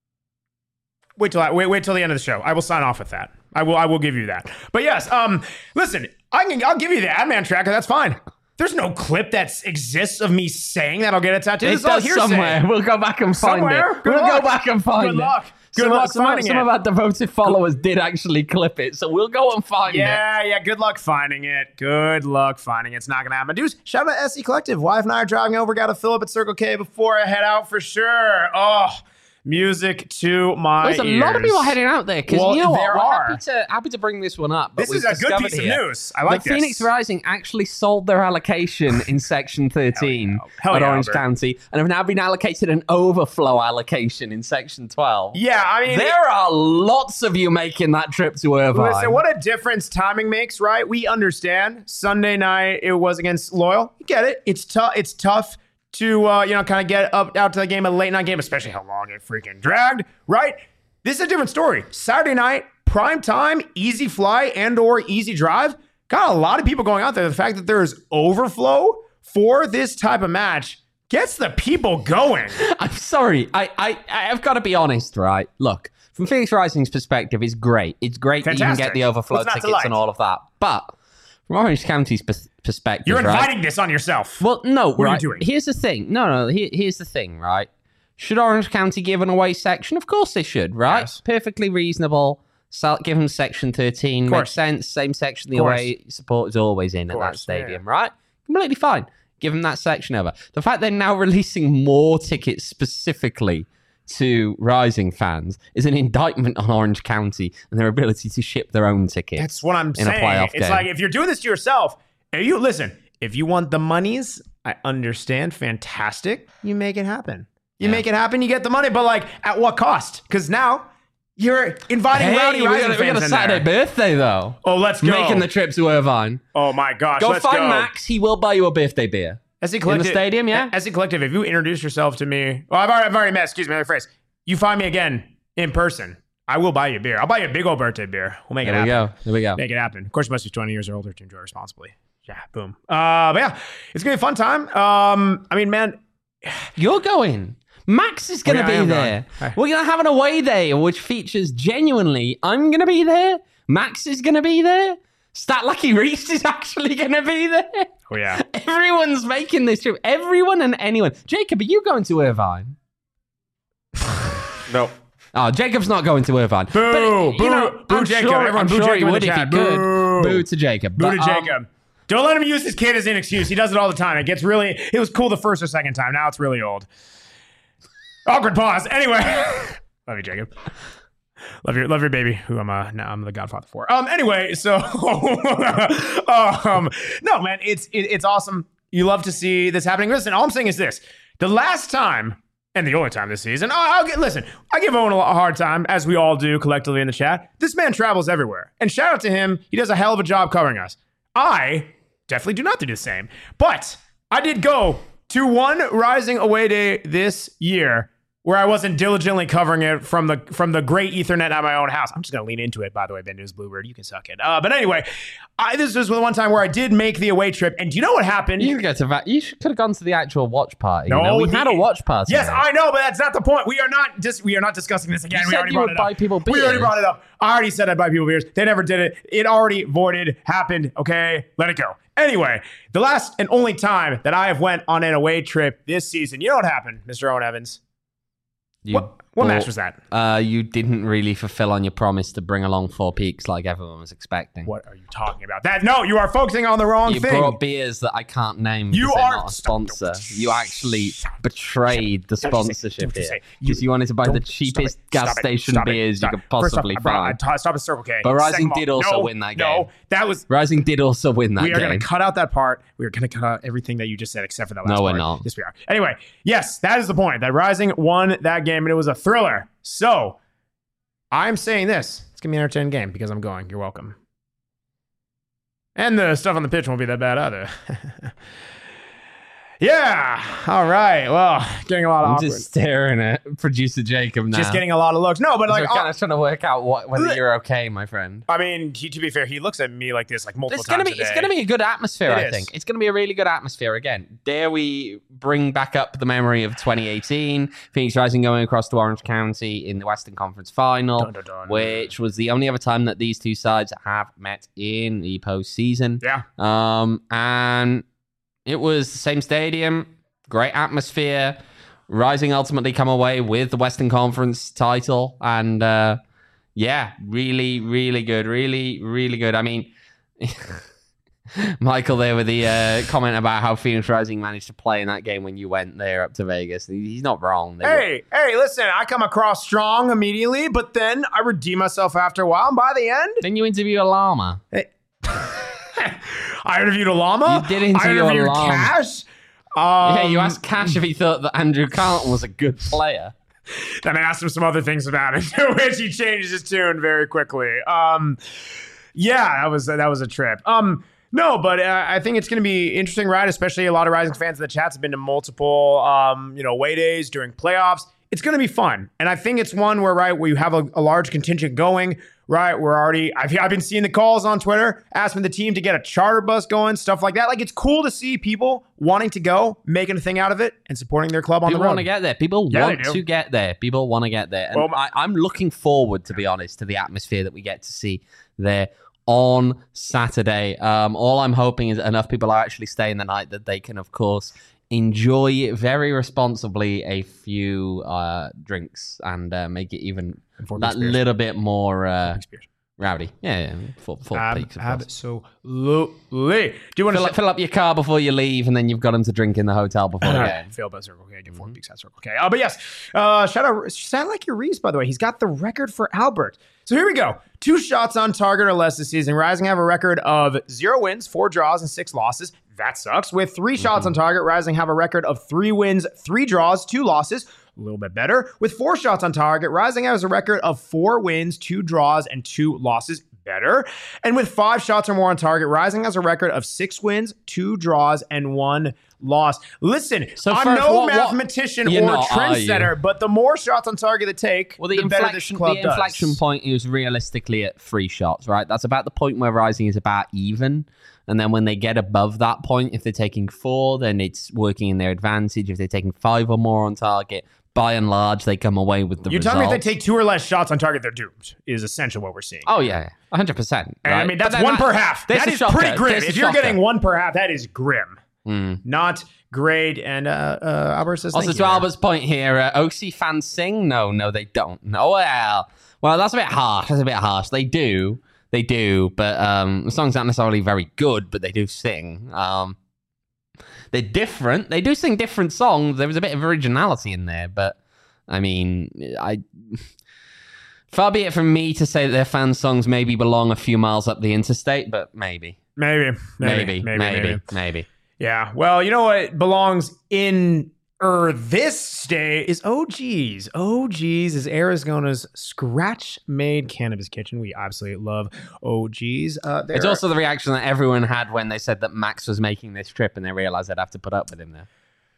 Wait till I, wait, wait till the end of the show. I will sign off with that. I will, I will give you that. But yes, um, listen, I can, I'll give you the Adman tracker. That's fine. There's no clip that exists of me saying that I'll get a tattoo. It This is all does hearsay. somewhere. We'll go back and find Somewhere? it. Good we'll luck. go back and find Good it. luck. Good some, luck some, finding some it. of our devoted followers did actually clip it, so we'll go and find it. Yeah, yeah. Good luck finding it. Good luck finding it. It's not gonna happen. Dudes, shout out to S E Collective. Wife and I are driving over. Got to fill up at Circle K before I head out for sure. Oh, music to my There's a ears. lot of people heading out there because Well, you know what? there We're are. happy to happy to bring this one up. But This we've is a good discovered piece of here news. I like that this. Phoenix Rising actually sold their allocation in Section thirteen Hell at yeah, Orange Albert. County and have now been allocated an overflow allocation in Section twelve. Yeah, I mean, There are lots of you making that trip to Irvine. listen, what a difference timing makes, right? We understand. Sunday night, it was against Loyal. You get it. It's tough. It's tough to uh, you know kind of get up out to the game, a late night game, especially how long it freaking dragged, right? This is a different story. Saturday night, prime time, easy fly and or easy drive. Got a lot of people going out there. The fact that there is overflow for this type of match gets the people going. I'm sorry. I, I, I've got to be honest, right? Look, from Phoenix Rising's perspective, it's great. It's great that you can Fantastic. get the overflow What's not to tickets like? and all of that. But from Orange County's pers- perspective, You're right? inviting this on yourself. Well, no, What are you right. doing? Here's the thing. No, no. Here, here's the thing, right? Should Orange County give an away section? Of course they should, right? Yes. Perfectly reasonable. So, give them Section thirteen. course. Makes sense. Same section the Of course. away support is always in at that course, yeah, stadium, right? Completely fine. Give them that section over. The fact they're now releasing more tickets specifically to Rising fans is an indictment on Orange County and their ability to ship their own tickets. That's what I'm in a saying. playoff It's game. like if you're doing this to yourself, and you listen, if you want the monies, I understand. Fantastic. You make it happen. You Yeah. make it happen, you get the money, but like at what cost? Because now you're inviting Hey, rowdy we Rising got, a- we fans got a in Saturday there. birthday though. Oh, let's go. Making the trip to Irvine. oh my gosh. Go let's find go. Max. He will buy you a birthday beer. S C In Collective, the stadium, yeah? S C Collective, if you introduce yourself to me, well, I've already, I've already met, excuse me, another phrase. You find me again in person, I will buy you a beer. I'll buy you a big old birthday beer. We'll make There it we happen. go. There we go. Make it happen. Of course, you must be twenty years or older to enjoy responsibly. Yeah, boom. Uh, but yeah, it's going to be a fun time. Um, I mean, man, You're going. Max is going to Oh, yeah, I be am there. going. We're going to have an away day, which features genuinely, I'm going to be there. Max is going to be there. Stat Lucky Reese is actually going to be there. oh yeah. Everyone's making this trip. Everyone and anyone. Jacob, are you going to Irvine? No. Oh, Jacob's not going to Irvine. Boo, But, boo, you know, boo, I'm Jacob. Sure, Everyone I'm boo sure Jacob he in the would if he chat. could. Boo. Boo to Jacob. Boo to But, um, Jacob. Don't let him use his kid as an excuse. He does it all the time. It gets really, it was cool the first or second time. Now it's really old. Awkward pause. Anyway. Love you, Jacob. Love your, love your baby, who I'm uh now I'm the godfather for. Um. Anyway, so um. No, man, it's it, it's awesome. You love to see this happening. Listen, all I'm saying is this: the last time and the only time this season, I'll, I'll get listen. I give Owen a lot- a hard time, as we all do collectively in the chat. This man travels everywhere, and shout out to him. He does a hell of a job covering us. I definitely do not do the same, but I did go to one Rising away day this year where I wasn't diligently covering it from the from the great Ethernet at my own house. I'm just gonna lean into it, by the way, Ben News Bluebird. You can suck it. Uh, but anyway, I, this was the one time where I did make the away trip, and do you know what happened? You, get to va- you should, could have gone to the actual watch party. No, you know? We the- had a watch party. Yes, there. I know, but that's not the point. We are not just we are not discussing this again. You we said already you brought would it up. buy people We already beers. brought it up. I already said I'd buy people beers. They never did it. It already voided, happened. Okay, let it go. Anyway, the last and only time that I have went on an away trip this season, you know what happened, Mister Owen Evans? You What what match bought- was that? Uh, you didn't really fulfill on your promise to bring along Four Peaks like everyone was expecting. What are you talking about? That no, you are focusing on the wrong You thing. brought beers that I can't name. You because they're are- not a stop. sponsor. You actually betrayed the Don't you say- sponsorship don't you here say- because you, wanted to buy the Don't- cheapest stop it, gas stop it, station stop it, beers stop you it. could possibly First off, I brought- find. I t- stop at Circle K. But Rising Second of all, did also no, win that No, game. that was. Rising did also win that We are game. going to cut out that part. We are going to cut out everything that you just said, except for that last No, part. we're not. Yes, we are. Anyway, yes, that is the point. That Rising won that game, and it was a thriller. So, I'm saying this. It's going to be an entertaining game because I'm going. You're welcome. And the stuff on the pitch won't be that bad either. Yeah. All right. Well, getting a lot of I'm awkward. just staring at producer Jacob now. Just getting a lot of looks. No, but like, We're kind of trying to work out what, whether Li- you're okay, my friend. I mean, he, to be fair, he looks at me like this like multiple It's gonna times be a it's day. gonna be a good atmosphere. It I is. think it's gonna be a really good atmosphere. Again, dare we bring back up the memory of twenty eighteen, Phoenix Rising going across to Orange County in the Western Conference Final, Dun, dun, dun. which was the only other time that these two sides have met in the postseason. Yeah. Um, and it was the same stadium, great atmosphere. Rising ultimately come away with the Western Conference title, and uh, yeah, really, really good, really, really good. I mean, Michael there with the uh, comment about how Phoenix Rising managed to play in that game when you went there up to Vegas. He's not wrong. They Hey, were... hey, listen, I come across strong immediately, but then I redeem myself after a while, and by the end, Then you interview a llama. hey, I interviewed a llama. You did interview I a interviewed llama. Cash. Um, yeah, you asked Cash if he thought that Andrew Carlton was a good player. Then I asked him some other things about it, to which he changed his tune very quickly. Um, yeah, that was that was a trip. Um, no, but uh, I think it's going to be an interesting ride, especially a lot of Rising fans in the chats have been to multiple, um, you know, away days during playoffs. It's going to be fun, and I think it's one where right where you have a, a large contingent going. Right, we're already. I've I've been seeing the calls on Twitter asking the team to get a charter bus going, stuff like that. Like it's cool to see people wanting to go, making a thing out of it, and supporting their club on People the road. want to get there. People Yeah, want they do. to get there. People want to get there. And Well, I, I'm looking forward, to be honest, to the atmosphere that we get to see there on Saturday. Um, all I'm hoping is enough people are actually staying the night that they can, of course, enjoy very responsibly a few uh, drinks and uh, make it even And four that big spears. little bit more uh, Big spears. rowdy. Yeah, yeah. Four, four Ab- peaks, of course. absolutely. Do you want Fill, to up- fill up your car before you leave, and then you've got them to drink in the hotel before the game. Failed by Circle K. Get four peaks at Circle K. Uh, but yes, uh, shout out. Sound like your Reese, by the way. He's got the record for Albert. So here we go. Two shots on target or less this season. Rising have a record of zero wins, four draws, and six losses. That sucks. With three shots on target, Rising have a record of three wins, three draws, two losses. A little bit better. With four shots on target, Rising has a record of four wins, two draws, and two losses. Better. And with five shots or more on target, Rising has a record of six wins, two draws, and one loss. Listen, So I'm first, no what- what- mathematician You're or not, are you? trendsetter, but the more shots on target they take, Well, the, the, better this inflection, club the does. inflection point is realistically at three shots, right? That's about the point where Rising is about even. And then when they get above that point, if they're taking four, then it's working in their advantage. If they're taking five or more on target, by and large, they come away with the You result. tell me if they take two or less shots on target, they're doomed, is essentially what we're seeing. Oh, yeah, one hundred percent. And Right? I mean, But that's then one that- per half. this That is is shocker. pretty grim. This is If you're shocker. getting one per half, that is grim. Mm. Not great. And uh, uh, Albert says, Also, thank to you. Albert's point here, uh, O C fans sing? No, no, they don't. No, well, well, that's a bit harsh. That's a bit harsh. They do, they do, but um, the song's not necessarily very good, but they do sing. Um, they're different. They do sing different songs. There was a bit of originality in there, but I mean, I. Far be it from me to say that their fan songs maybe belong a few miles up the interstate, but maybe, Maybe. maybe, Maybe. maybe, maybe. maybe. Yeah. Well, you know what belongs in er this state is O G's. O G's is Arizona's scratch-made cannabis kitchen. We absolutely love O G's. Uh, It's they're- also the reaction that everyone had when they said that Max was making this trip and they realized they'd have to put up with him there.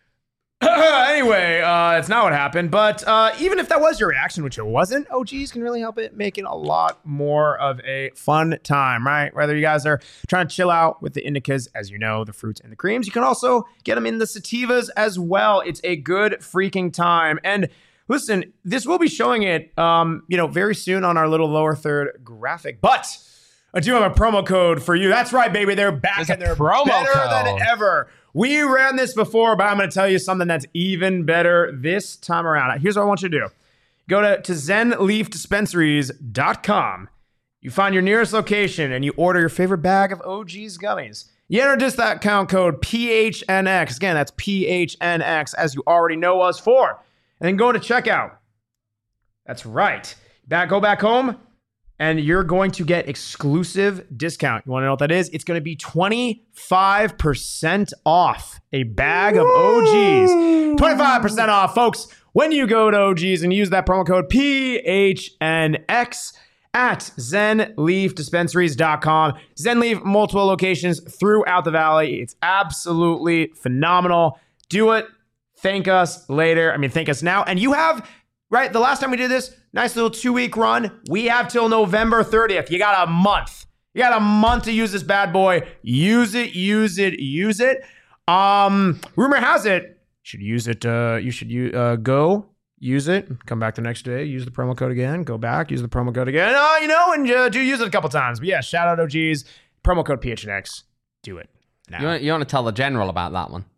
anyway, uh, it's not what happened. But uh, even if that was your reaction, which it wasn't, O G's can really help it make it a lot more of a fun time, right? Whether you guys are trying to chill out with the indicas, as you know, the fruits and the creams, you can also get them in the sativas as well. It's a good freaking time. And listen, this will be showing it, um, you know, very soon on our little lower third graphic. But I do have a promo code for you. That's right, baby. They're back There's a and they're promo better code. than ever. We ran this before, but I'm going to tell you something that's even better this time around. Here's what I want you to do. Go to, to zen leaf dispensaries dot com. You find your nearest location and you order your favorite bag of O G's gummies. You enter discount code P H N X. Again, that's P H N X, as you already know us for. And then go to checkout. That's right. Back, go back home, and you're going to get exclusive discount. You want to know what that is? It's going to be twenty-five percent off a bag of O G's. twenty-five percent off, folks, when you go to O G's and use that promo code P H N X at zen leaf dispensaries dot com. Zenleaf, multiple locations throughout the valley. It's absolutely phenomenal. Do it. Thank us later. I mean, thank us now. And you have, right, the last time we did this, nice little two-week run. We have till November thirtieth. You got a month. You got a month to use this bad boy. Use it, use it, use it. Um, rumor has it, you should use it. Uh, you should use, uh, go use it. Come back the next day. Use the promo code again. Go back. Use the promo code again. Uh, you know, and uh, do use it a couple times. But yeah, shout out O G's. Promo code P H N X. Do it now. You want, you want to tell the general about that one?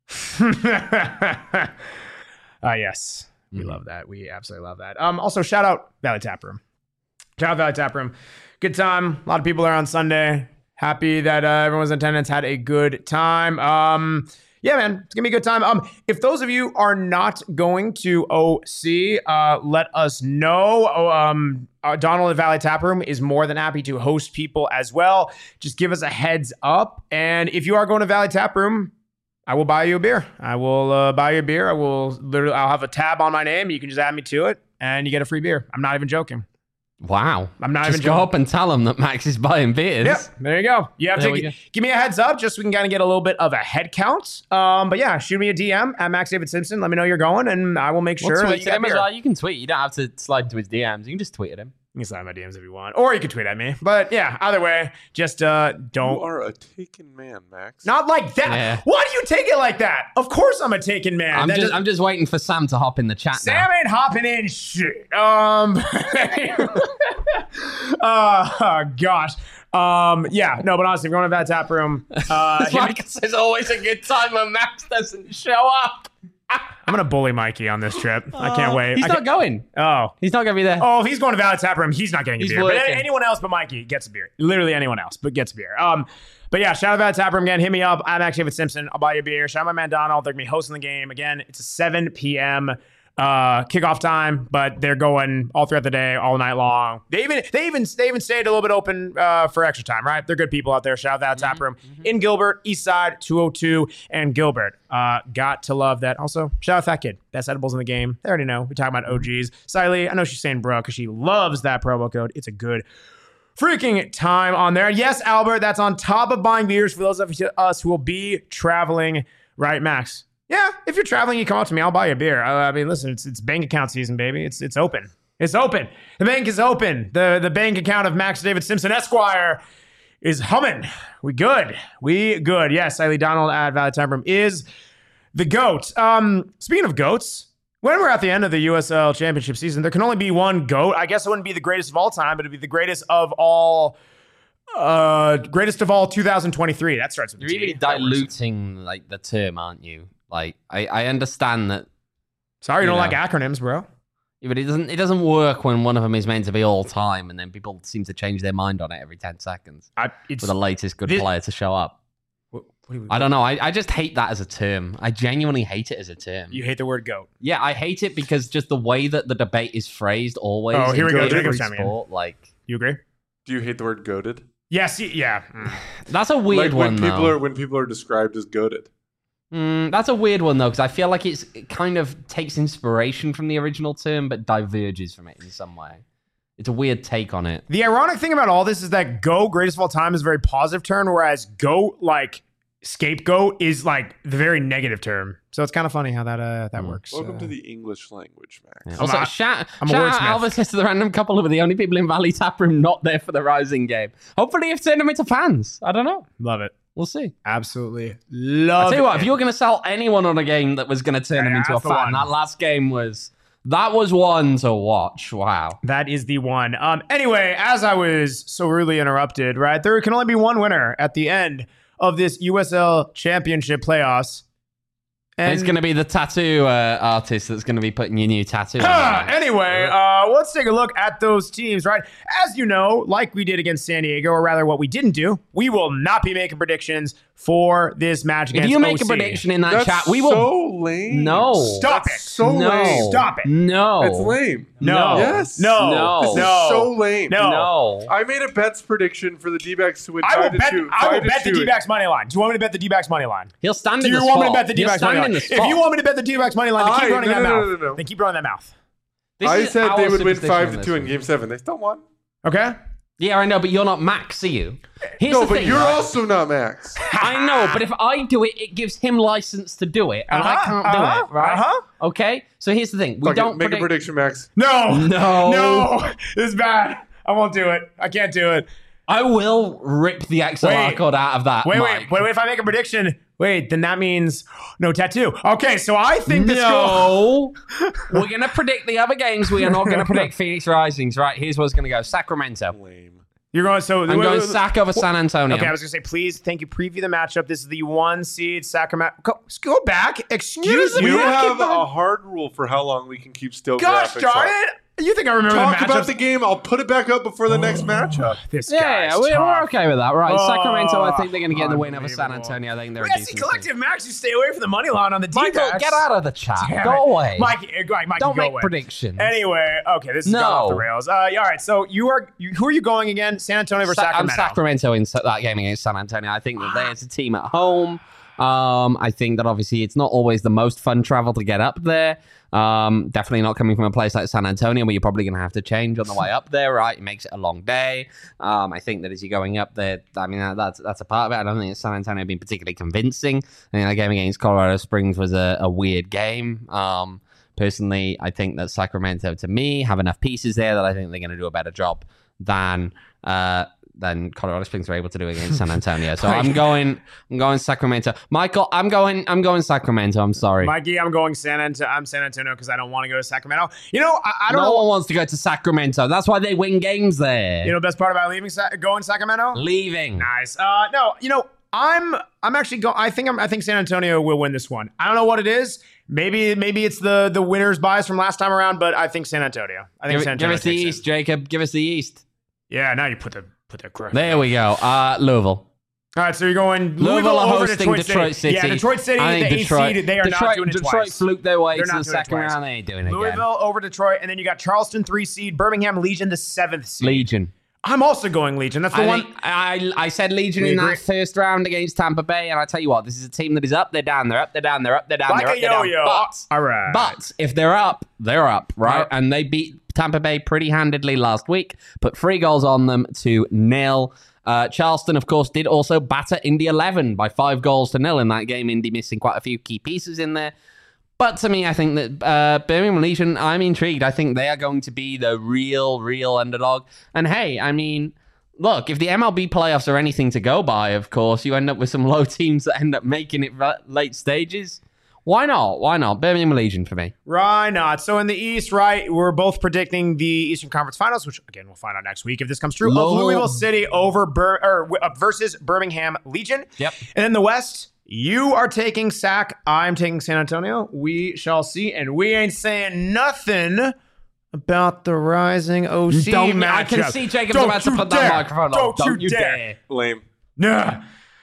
uh, yes, we Mhm. love that. We absolutely love that. Um, also, shout out Valley Tap Room. Shout out Valley Tap Room. Good time. A lot of people there on Sunday Happy that uh, everyone's in attendance had a good time. Um, yeah, man, it's gonna be a good time. Um, if those of you are not going to O C, uh, let us know. Oh, um, uh, Donald at Valley Tap Room is more than happy to host people as well. Just give us a heads up. And if you are going to Valley Tap Room, I will buy you a beer. I will uh, buy you a beer. I will literally. I'll have a tab on my name. You can just add me to it, and you get a free beer. I'm not even joking. Wow. I'm not Just even go joking. up and tell them that Max is buying beers. Yep, there you go. You have There to we g- go. give me a heads up just so we can kind of get a little bit of a head count. Um, but yeah, shoot me a D M at Max David Simpson. Let me know you're going, and I will make sure We'll that tweet you to got him as beer. well. You can tweet. You don't have to slide into his D Ms. You can just tweet at him. You can slide my D Ms if you want, or you can tweet at me. But yeah, either way, just uh, You don't. are a taken man, Max. Not like that. Yeah. Why do you take it like that? Of course, I'm a taken man. I'm That just, does- I'm just waiting for Sam to hop in the chat Sam now. ain't hopping in shit. Um, uh, oh, gosh. Um, yeah, no, but honestly, if you're going to that tap room, uh, hit me- Like it's always a good time when Max doesn't show up. I'm gonna bully Mikey on this trip. I can't wait. He's I not can't- going. Oh, He's not going to be there. oh, if he's going to Valley Tap Room, he's not getting a He's beer. But working. anyone else but Mikey gets a beer. Literally anyone else, but gets a beer. Um, but yeah, shout out to Valley Tap Room again. Hit me up. I'm actually David Simpson. I'll buy you a beer. Shout out my man Donald. They're gonna be hosting the game again. It's a seven p.m. uh kickoff time, but they're going all throughout the day, all night long. They even they even they even stayed a little bit open uh for extra time, right? They're good people out there. Shout out that tap room in Gilbert, East Side, two oh two, and Gilbert. Uh got to love that. Also, shout out that kid. Best edibles in the game. They already know. We're talking about O Gs. Siley, I know she's saying bro because she loves that promo code. It's a good freaking time on there. Yes, Albert, that's on top of buying beers for those of us who will be traveling, right, Max? Yeah, if you're traveling, you come up to me, I'll buy you a beer. I, I mean, listen, it's it's bank account season, baby. It's it's open. It's open. The bank is open. The the bank account of Max David Simpson Esquire is humming. We good. We good. Yes, Siley Donald at Valley Tap Room is the GOAT. Um, speaking of GOATs, when we're at the end of the U S L Championship season, there can only be one GOAT. I guess it wouldn't be the greatest of all time, but it'd be the greatest of all, uh, greatest of all two thousand twenty-three. That starts with You're a T. really That works. diluting like the term, aren't you? Like I, I understand that, Sorry, you you don't know. like acronyms, bro. yeah, but it doesn't it doesn't work when one of them is meant to be all time, and then people seem to change their mind on it every ten seconds I, it's, for the latest good This- player to show up. what, what do you, I don't know. I, I just hate that as a term. I genuinely hate it as a term. you hate the word GOAT. Yeah, I hate it because just the way that the debate is phrased always. Oh, here we in go. every Jacob's coming in. sport, like You agree? Do you hate the word goated? Yes. y- Yeah. Mm. that's a weird like when one people though. are when people are described as goated. Mm, that's a weird one though, because I feel like it's it kind of takes inspiration from the original term, but diverges from it in some way. It's a weird take on it. The ironic thing about all this is that GOAT, greatest of all time, is a very positive term, whereas GOAT, like scapegoat, is like the very negative term. So it's kind of funny how that uh, that Mm. works. Welcome Uh, to the English language, Max. Yeah. Also, not- shout, I'm a shout out wordsmith. Alvis to the random couple who are the only people in Valley Tap Room not there for the Rising game. Hopefully, you've turned them into fans. I don't know. Love it. We'll see. Absolutely love I'll tell you what, it. if you're going to sell anyone on a game that was going to turn them Yeah, into a that's the fan, one. that last game was that was one to watch. Wow. That is the one. Um. Anyway, as I was so rudely interrupted, right? There can only be one winner at the end of this U S L Championship playoffs. And it's going to be the tattoo uh, artist that's going to be putting your new tattoo on. Ah, there. anyway, uh, let's take a look at those teams, right? As you know, like we did against San Diego, or rather what we didn't do, we will not be making predictions for this match If against you make O C. a prediction in that That's chat, we will. so lame. No. Stop That's it. So no. lame. Stop it. No. It's lame. No. Yes. No. No. This is No. so lame. No. No. I made a bets prediction for the D-backs to win I will five to bet, two. I will five to bet the two. D-backs money line. Do you want me to bet the D-backs money line? He'll stand Do in you the want spot. me to bet the He'll D-backs money stand in line? the If spot. you want me to bet the D-backs money line, then keep I- running no, that no, mouth. no, no, no. Then keep running that mouth. This I is said our they would win superstition five on to this two in one. Game Seven. They still won. Okay? Yeah, I know, but you're not Max, are you? Here's No, the but thing, you're right? also not Max. I know, but if I do it, it gives him license to do it, and I Uh-huh, can't uh-huh, do it, right? uh-huh. Okay, so here's the thing: we Fuck it, don't make predict- a prediction, Max. No. No. No. This is bad. I won't do it. I can't do it. I will rip the X L R Wait. code out of that. Wait, Mike. wait, wait, wait. If I make a prediction, wait, then that means no tattoo. Okay, so I think the score. No, we're gonna predict the other games. We are not gonna predict Phoenix Risings. Right? Here's what's gonna go: Sacramento. Lame. You're going, so. I'm wait, going wait, wait. Sac over San Antonio. Okay, I was going to say, please, thank you. Preview the matchup. This is the one seed Sacramento. Go, go back. Excuse You me. have a hard rule for how long we can keep still Gosh graphics darn up. it. You think I remember Talk the about matchups? the game. I'll put it back up before the next matchup. This Yeah, guy's yeah, we're, tough. we're okay with that. Right. Oh, Sacramento, I think they're going to get the win over San unbelievable. Antonio. I think they're We a gotta see decent collective team. Max. You stay away from the money line on the D-backs. Michael, get out of the chat. Damn Go it. away. Mikey, uh, Mikey, Mikey, Don't go make away. predictions. Anyway, okay, this is No. going off the rails. Uh, yeah, all right, so you are you, who are you going again? San Antonio versus Sa- I'm Sacramento. Sacramento in sa- that game against San Antonio. I think that they as a team at home. Um, I think that obviously it's not always the most fun travel to get up there. Um, definitely not coming from a place like San Antonio where you're probably going to have to change on the way up there, right? It makes it a long day. Um, I think that as you're going up there, I mean, that, that's that's a part of it. I don't think that San Antonio been particularly convincing. I think that game against Colorado Springs was a, a weird game. Um, personally, I think that Sacramento, to me, have enough pieces there that I think they're going to do a better job than uh, than Colorado Springs were able to do against San Antonio. So I'm going, I'm going Sacramento. Michael, I'm going, I'm going Sacramento. I'm sorry. Mikey, I'm going San Antonio. I'm San Antonio because I don't want to go to Sacramento. You know, I, I don't no know. one wants to go to Sacramento. That's why they win games there. You know, the best part about leaving, Sa- going to Sacramento. Leaving. Nice. Uh, no, you know, I'm I'm actually going. I think I'm. I think San Antonio will win this one. I don't know what it is. Maybe maybe it's the the winner's bias from last time around, but I think San Antonio. I think Give, San give Antonio us the takes it. East, Jacob. Give us the East. Yeah, now you put the put the correct. There we go. Uh, Louisville. All right, so you're going Louisville Louisville are over hosting Detroit, Detroit City. Yeah, Detroit City, I think the Detroit, eighth seed, they are Detroit, not doing it Detroit twice. fluked their way They're to not the doing it second twice. round. They ain't doing it again. Louisville over Detroit, and then you got Charleston three seed, Birmingham Legion the seventh seed. Legion. I'm also going Legion. That's the I, one. think, I I said Legion We in agree. that first round against Tampa Bay, and I tell you what, this is a team that is up, they're down, they're up, they're down, they're up, they're down, Like they're up, a they're down. yo-yo. But, All right. but if they're up, they're up, right? Yep. And they beat Tampa Bay pretty handedly last week, put three goals on them to nil. Uh, Charleston, of course, did also batter Indy eleven by five goals to nil in that game. Indy missing quite a few key pieces in there. But to me, I think that uh, Birmingham Legion, I'm intrigued. I think they are going to be the real, real underdog. And hey, I mean, look, if the M L B playoffs are anything to go by, of course, you end up with some low teams that end up making it ra- late stages. Why not? Why not? Birmingham Legion for me. Why not? So in the East, right, we're both predicting the Eastern Conference Finals, which again we'll find out next week if this comes true. Of Lol. Louisville City over Bir- or uh, versus Birmingham Legion. Yep. And in the West, you are taking Sac. I'm taking San Antonio. We shall see, and we ain't saying nothing about the rising O C Don't- matchup. I can see Jacob's Don't about to you put that dare. microphone Don't off. you Don't you dare. dare. Lame. Nah.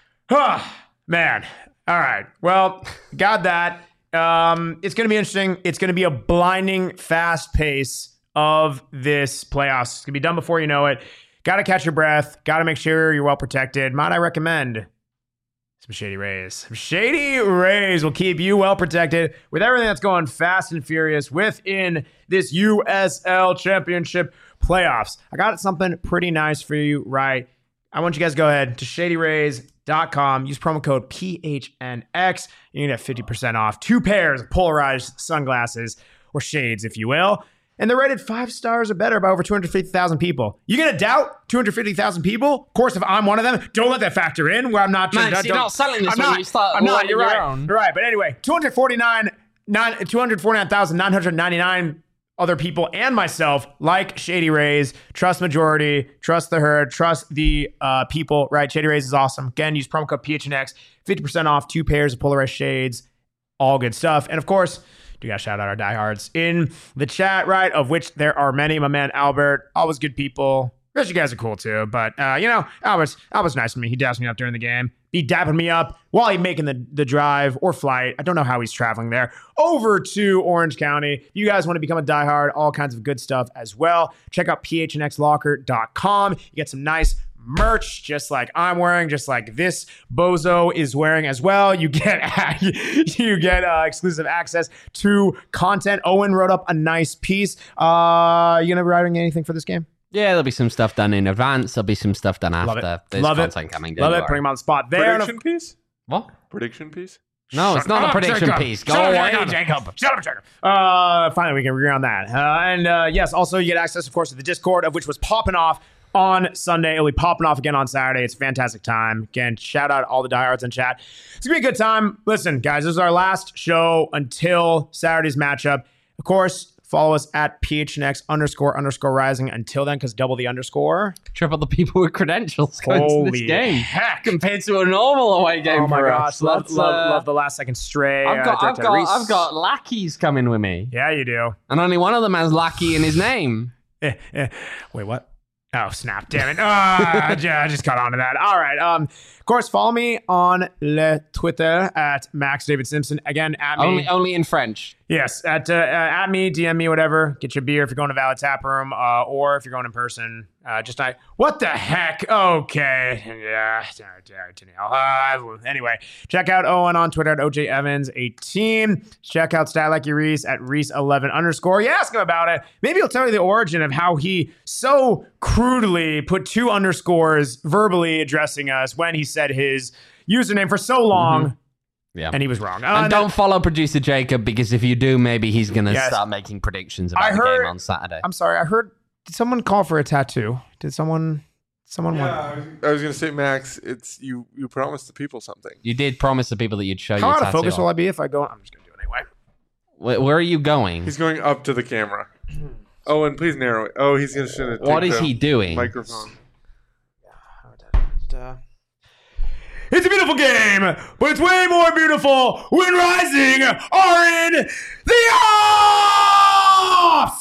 Ah, man. All right. Well, got that. Um, it's going to be interesting. It's going to be a blinding fast pace of this playoffs. It's going to be done before you know it. Got to catch your breath. Got to make sure you're well protected. Might I recommend some Shady Rays? Some Shady Rays will keep you well protected with everything that's going fast and furious within this U S L Championship playoffs. I got something pretty nice for you, right? I want you guys to go ahead to shady rays dot com. Use promo code P H N X. You're going to have fifty percent off two pairs of polarized sunglasses, or shades, if you will. And they're rated five stars or better by over two hundred fifty thousand people. You going to doubt two hundred fifty thousand people? Of course, if I'm one of them, don't let that factor in where I'm not. Man, don't- so you're not selling this I'm when not, you start I'm not. lighting You're your right. own. You're right. But anyway, two hundred forty-nine, nine, two hundred forty-nine thousand nine hundred ninety-nine other people and myself like Shady Rays. Trust majority, trust the herd, trust the uh, people, right? Shady Rays is awesome. Again, use promo code P H N X, fifty percent off, two pairs of polarized shades, all good stuff. And of course, do got to shout out our diehards in the chat, right? Of which there are many. My man Albert, always good people. The rest of you guys are cool too. But, uh, you know, Albert's, Albert's nice to me. He dabs me up during the game. He dapping me up while he's making the, the drive or flight. I don't know how he's traveling there. Over to Orange County. If you guys want to become a diehard, all kinds of good stuff as well. Check out P H N X locker dot com. You get some nice merch, just like I'm wearing, just like this bozo is wearing as well. You get you get uh, exclusive access to content. Owen wrote up a nice piece. Uh, you gonna be writing anything for this game? Yeah, there'll be some stuff done in advance. There'll be some stuff done Love after. it. There's Love it. content coming. Love don't it. worry. Putting him on the spot there. Prediction piece? What? Prediction piece? No, it's not a prediction Jacob. piece. Go Shut up, away, Jacob. Jacob. Shut up, Jacob. Uh, finally, we can agree on that. Uh, and uh, yes, also you get access, of course, to the Discord, of which was popping off on Sunday. It'll be popping off again on Saturday. It's a fantastic time. Again, shout out all the diehards in chat. It's gonna be a good time. Listen, guys, this is our last show until Saturday's matchup. Of course, Follow us at phnx underscore underscore rising. Until then, because double the underscore. Triple the people with credentials going to Holy this game heck. compared to a normal away game Oh my for gosh. us. Love, Let's, love, uh, love the last second stray. I've got, uh, I've Dirk got, Reese. I've got lackeys coming with me, Yeah, you do. and only one of them has lackey in his name. Eh, eh. Wait, what? Oh, snap. Damn it. Ah, I ju- I just caught on to that. All right. Um, of course, follow me on le Twitter at Max David Simpson. Again, at me. Only, only in French. Yes, at uh, uh, at me, D M me, whatever. Get your beer if you're going to Valid Tap Room, uh, or if you're going in person. Uh, just I. What the heck? Okay, yeah. Uh, anyway, check out Owen on Twitter at O J Evans eighteen. Check out Style Like You Reese at Reese eleven underscore. You ask him about it. Maybe he'll tell you the origin of how he so crudely put two underscores verbally addressing us when he said his username for so long. Mm-hmm. Yeah. And he was wrong. Uh, And and don't then- follow producer Jacob, because if you do, maybe he's going to Yes. start making predictions about I the heard- game on Saturday. I'm sorry. I heard. Did someone call for a tattoo? Did someone? Someone Yeah, want? I was, I was gonna say, Max, it's you. You promised the people something. You did promise the people that you'd show How your out of tattoo. focus on. will I be if I go? I'm just gonna do it anyway. Where, where are you going? He's going up to the camera. Oh, and please narrow it. Oh, he's gonna should have. What is he doing? Microphone. It's a beautiful game, but it's way more beautiful when Rising are in the offs.